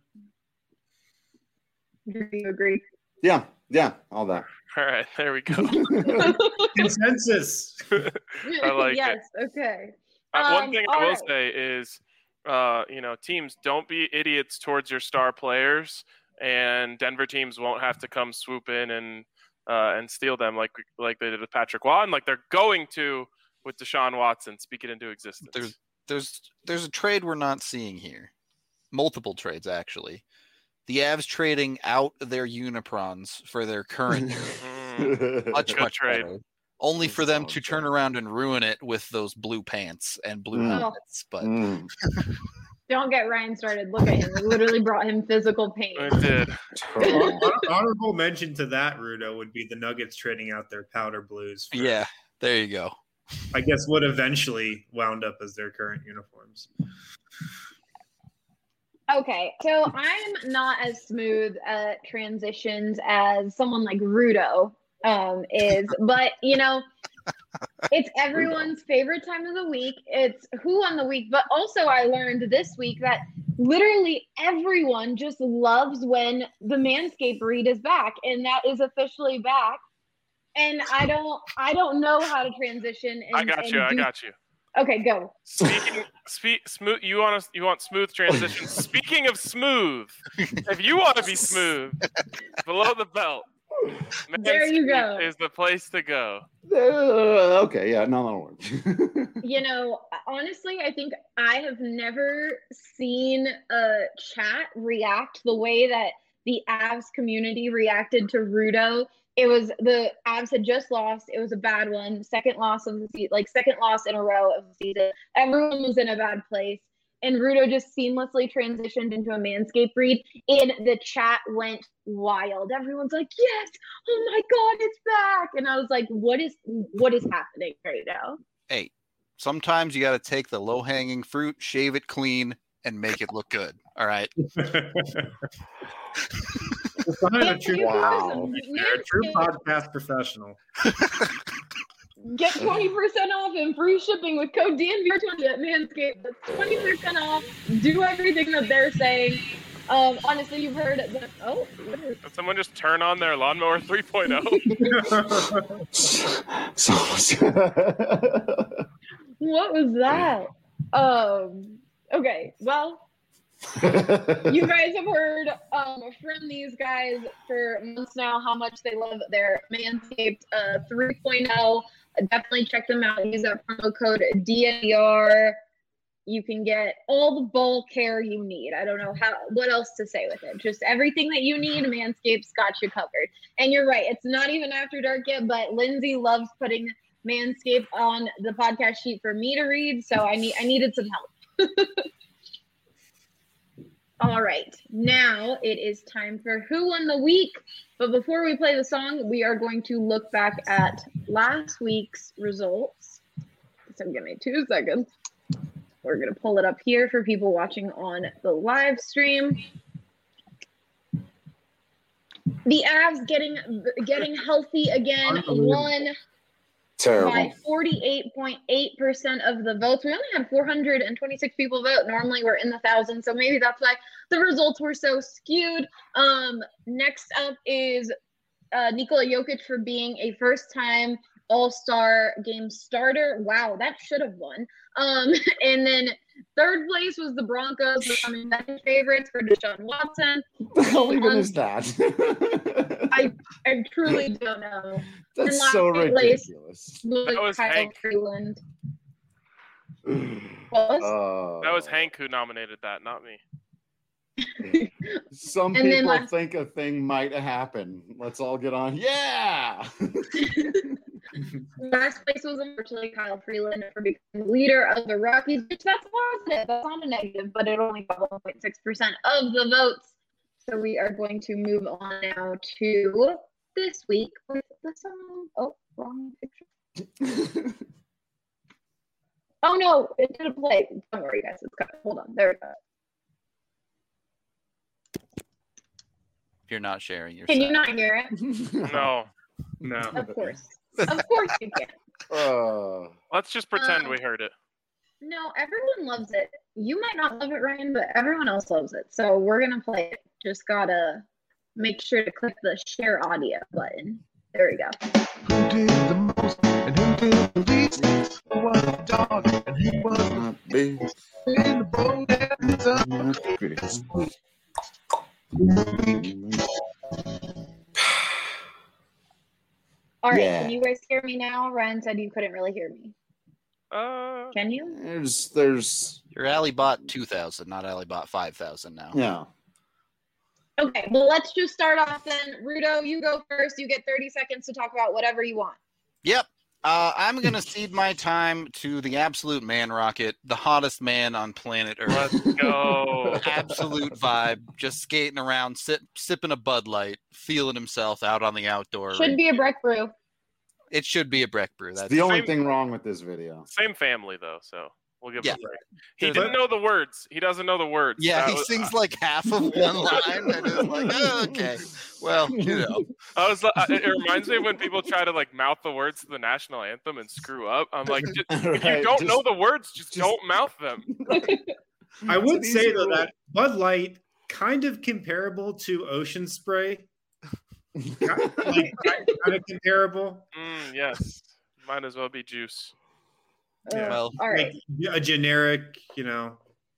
Do you agree? Yeah. Yeah. All that. All right, there we go. Consensus. I like yes. it. Okay. Uh, one Um, thing I all will right. say is, uh, you know, teams don't be idiots towards your star players, and Denver teams won't have to come swoop in and uh, and steal them like like they did with Patrick Waugh, and like they're going to with Deshaun Watson. Speak it into existence. There's there's there's a trade we're not seeing here. Multiple trades actually. The Avs trading out their Uniprons for their current Mm, much Good much trade. better. Only for them Solid to trade. turn around and ruin it with those blue pants and blue Mm. helmets. But Mm. Don't get Ryan started. Look at him. It literally brought him physical pain. it did. Hon- Honorable mention to that, Rudo, would be the Nuggets trading out their powder blues. For, yeah, there you go. I guess what eventually wound up as their current uniforms. Okay, so I'm not as smooth at transitions as someone like Rudo um, is, but you know, it's everyone's favorite time of the week. It's who on the week, but also I learned this week that literally everyone just loves when the Manscaped read is back, and that is officially back. And I don't, I don't know how to transition. And, I got and you. I do- got you. Okay, go. Speaking, speak, smooth. You want to, you want smooth transition. Speaking of smooth, if you want to be smooth, below the belt, There you go. Manscaped is the place to go. Uh, okay. Yeah. No, that'll work. You know, honestly, I think I have never seen a chat react the way that the Avs community reacted to Rudo. It was the Avs had just lost. It was a bad one. Second loss of the season, like second loss in a row of the season. Everyone was in a bad place. And Rudo just seamlessly transitioned into a Manscaped read. And the chat went wild. Everyone's like, yes, oh my God, it's back. And I was like, what is what is happening right now? Hey, sometimes you got to take the low hanging fruit, shave it clean, and make it look good. All right. It's behind a true, Wow. a true podcast professional. Get twenty percent off and free shipping with code D N V R twenty at Manscaped. That's twenty percent off. Do everything that they're saying. Um, honestly, you've heard the oh, what is, Did someone just turn on their lawnmower three point oh? So, what was that? Um, okay, well, you guys have heard um, from these guys for months now how much they love their Manscaped uh, three point oh. Definitely check them out. Use that promo code D N V R. You can get all the ball care you need. I don't know how what else to say with it. Just everything that you need, Manscaped's got you covered. And you're right, it's not even after dark yet, but Lindsay loves putting Manscaped on the podcast sheet for me to read, so I need I needed some help. All right, now it is time for Who Won the Week. But before we play the song, we are going to look back at last week's results. So give me two seconds. We're going to pull it up here for people watching on the live stream. The Avs getting getting healthy again, won Terrible. by forty-eight point eight percent of the votes. We only had four hundred twenty-six people vote. Normally we're in the thousands, so maybe that's why the results were so skewed. Um, next up is uh, Nikola Jokic for being a first-time All-Star game starter. Wow, that should have won. Um, and then third place was the Broncos becoming betting favorites for Deshaun Watson. How even Um, is that? I I truly don't know. And That's last so place ridiculous. was That was Kyle Hank. Freeland. Was? Uh, That was Hank who nominated that, not me. Some And then people last- think a thing might happen. Let's all get on. Yeah. Last place was unfortunately Kyle Freeland for becoming the leader of the Rockies, which that's positive. That's not a negative, but it only got one point six percent of the votes. So we are going to move on now to this week with the song. Oh, wrong picture. Oh no, it didn't play. Don't worry, guys. It's got. Hold on. There we go. You're not sharing your. Can you sound. not hear it? No. No. Of course. Of course you can. Uh, Let's just pretend Um, we heard it. No, everyone loves it. You might not love it, Ryan, but everyone else loves it. So we're gonna play it. Just gotta make sure to click the share audio button. There we go. Who did the most and who did the least? Who was the dog and who was the not big, in the boat and the sun? not big. All right, Yeah. can you guys hear me now? Ryan said you couldn't really hear me. Uh, Can you? There's, there's, Your Alley-Bot two thousand, not Alley-Bot five thousand now. yeah. Okay, well, let's just start off then. Rudo, you go first. You get thirty seconds to talk about whatever you want. Yep. Uh, I'm going to cede my time to the absolute man rocket, the hottest man on planet Earth. let's go. Absolute vibe, just skating around, sip, sipping a Bud Light, feeling himself out on the outdoor. Should be a Breck Brew. It should be a Breck Brew. It's That's the only same- thing wrong with this video. Same family, though, so we'll give Yeah. him a break. He There's didn't know the words. He doesn't know the words. yeah, That he was- sings like half of one line, and it's like, oh, okay, well, you know, I was. like- It reminds me of when people try to like mouth the words to the national anthem and screw up. I'm like, just, if you Right, don't just- know the words, just, just- don't mouth them. I would It's an say easy though rule. that Bud Light kind of comparable to Ocean Spray. kind of, like, kind of comparable. Mm, yes, might as well be juice. Uh, well, all right. Like a generic, you know.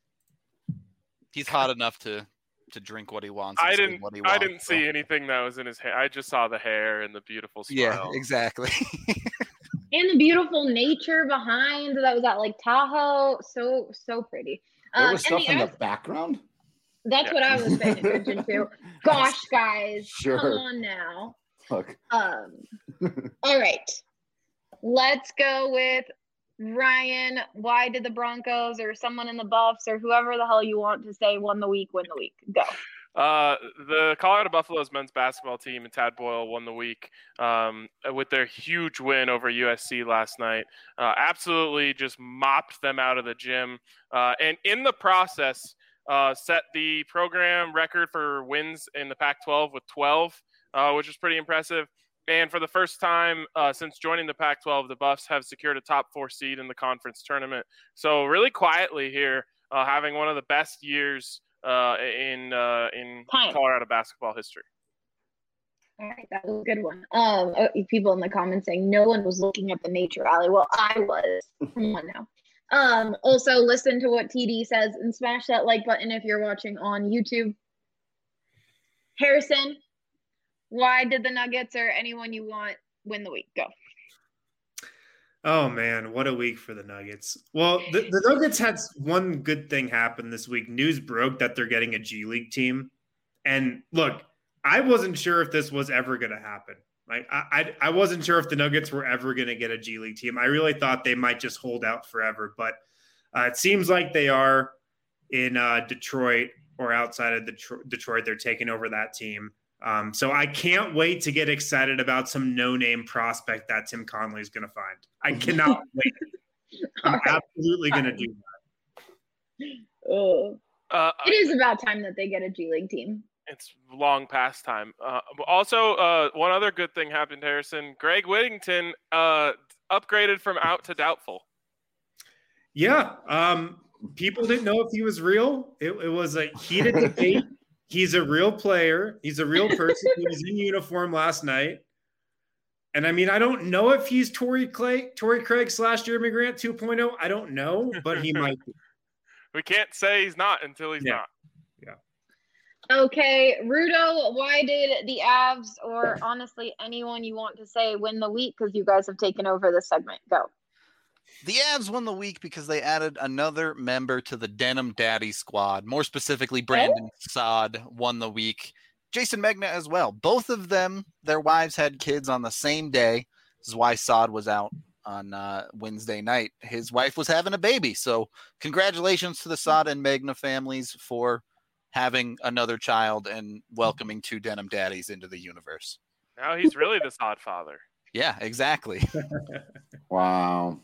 he's hot enough to to drink what he wants. and I say didn't. What he I wants, didn't so- see anything that was in his hair. I just saw the hair and the beautiful Yeah, smile. exactly. And the beautiful nature behind that was at like Tahoe. So, so pretty. There Um, was and stuff the in the Avs- background? That's Yeah. what I was paying attention to. Gosh, guys, Sure. come on now. Look. Um, all right, let's go with Ryan. Why did the Broncos or someone in the Buffs or whoever the hell you want to say won the week? Win the week. Go. Uh, the Colorado Buffaloes men's basketball team and Tad Boyle won the week um, with their huge win over U S C last night. Uh, absolutely just mopped them out of the gym. Uh, and in the process, uh, set the program record for wins in the Pac twelve with twelve, uh, which is pretty impressive. And for the first time uh, since joining the Pac twelve, the Buffs have secured a top four seed in the conference tournament. So really quietly here, uh, having one of the best years uh, in uh, in Time. Colorado basketball history. All right, that was a good one. Um, uh, people in the comments saying no one was looking at the nature alley. Well, I was. Come on now. Um, also listen to what T D says and smash that like button if you're watching on YouTube. Harrison, why did the Nuggets or anyone you want win the week? Go. Oh man, what a week for the Nuggets. Well, the, the Nuggets had one good thing happen this week. News broke that they're getting a G League team. And look, I wasn't sure if this was ever going to happen. Like I, I, I wasn't sure if the Nuggets were ever going to get a G League team. I really thought they might just hold out forever, but uh, it seems like they are in uh, Detroit. or outside of Detroit, they're taking over that team. Um, so I can't wait to get excited about some no-name prospect that Tim Connolly is going to find. I cannot wait. I'm right. absolutely going to do that. Oh, uh, it is about time that they get a G League team. It's long past time. Uh, also, uh, one other good thing happened, Harrison. Greg Whittington uh, upgraded from out to doubtful. Yeah. Um, people didn't know if he was real. It, it was a heated debate. He's a real player. He's a real person. He was in uniform last night. And I mean, I don't know if he's Torrey Clay, Torrey Craig slash Jeremy Grant two point oh. I don't know, but he might be. We can't say he's not until he's yeah. not. Yeah. Okay, Rudo, why did the Avs, or honestly anyone you want to say, win the week? Because you guys have taken over this segment. Go. The Avs won the week because they added another member to the Denim Daddy squad. More specifically, Brandon oh. Saad won the week. Jason Megna as well. Both of them, their wives had kids on the same day. This is why Saad was out on uh, Wednesday night. His wife was having a baby. So congratulations to the Saad and Megna families for having another child and welcoming two Denim Daddies into the universe. Now he's really the Saad father. Yeah, exactly. Wow.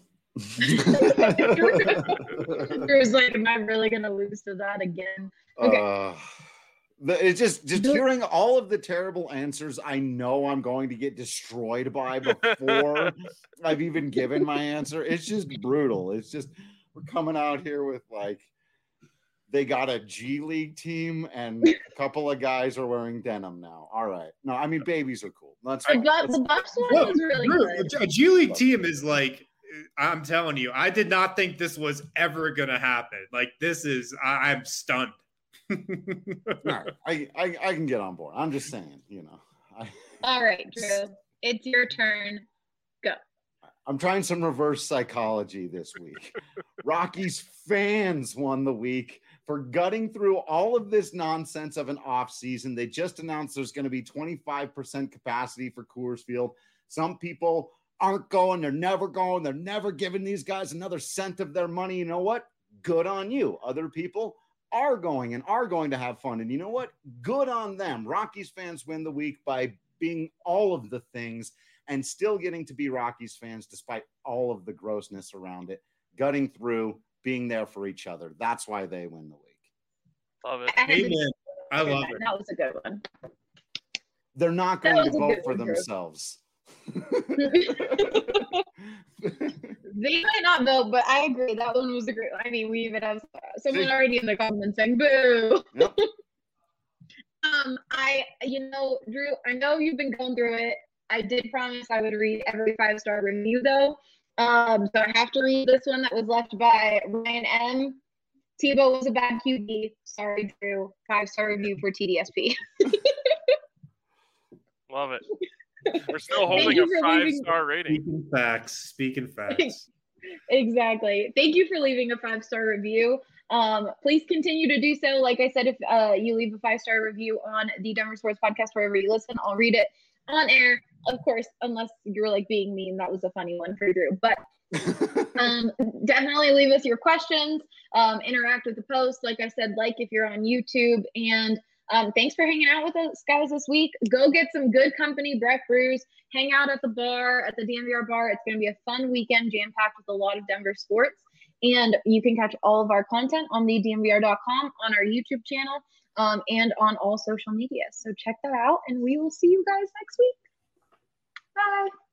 Drew's like, am I really going to lose to that again? Okay. Uh, the, it's just just hearing all of the terrible answers I know I'm going to get destroyed by before I've even given my answer. It's just brutal. It's just, we're coming out here with like, they got a G League team and a couple of guys are wearing denim now. All right. No, I mean, babies are cool. That's the, the Bucks one was really good. A G League team is like, I'm telling you, I did not think this was ever going to happen. Like, this is, I, I'm stunned. All right. I, I, I can get on board. I'm just saying, you know. I, All right, Drew. It's your turn. Go. I'm trying some reverse psychology this week. Rockies fans won the week for gutting through all of this nonsense of an off season. They just announced there's going to be twenty-five percent capacity for Coors Field. Some people aren't going. They're never going. They're never giving these guys another cent of their money. You know what? Good on you. Other people are going and are going to have fun. And you know what? Good on them. Rockies fans win the week by being all of the things and still getting to be Rockies fans despite all of the grossness around it, gutting through, being there for each other. That's why they win the week. Love it. Amen. I love it. That was a good one. They're not going to vote for themselves. They might not vote, but I agree. That one was a great one. I mean, we even have someone already in the comments saying, boo. Yep. um, I, you know, Drew, I know you've been going through it. I did promise I would read every five-star review, though. Um, so I have to read this one that was left by Ryan M. Tebow was a bad Q B. Sorry, Drew. Five-star review for T D S P. Love it. We're still holding a five-star rating. Speaking facts. Speaking facts. Exactly. Thank you for leaving a five-star review. Um, please continue to do so. Like I said, if uh, you leave a five-star review on the Denver Sports Podcast, wherever you listen, I'll read it on air. Of course, unless you're like being mean. That was a funny one for Drew. But um, definitely leave us your questions. Um, interact with the post. Like I said, like if you're on YouTube. And um, thanks for hanging out with us guys this week. Go get some good company, Breck Brews. Hang out at the bar, at the D M V R bar. It's going to be a fun weekend, jam-packed with a lot of Denver sports. And you can catch all of our content on the D M V R dot com, on our YouTube channel, um, and on all social media. So check that out, and we will see you guys next week. Bye.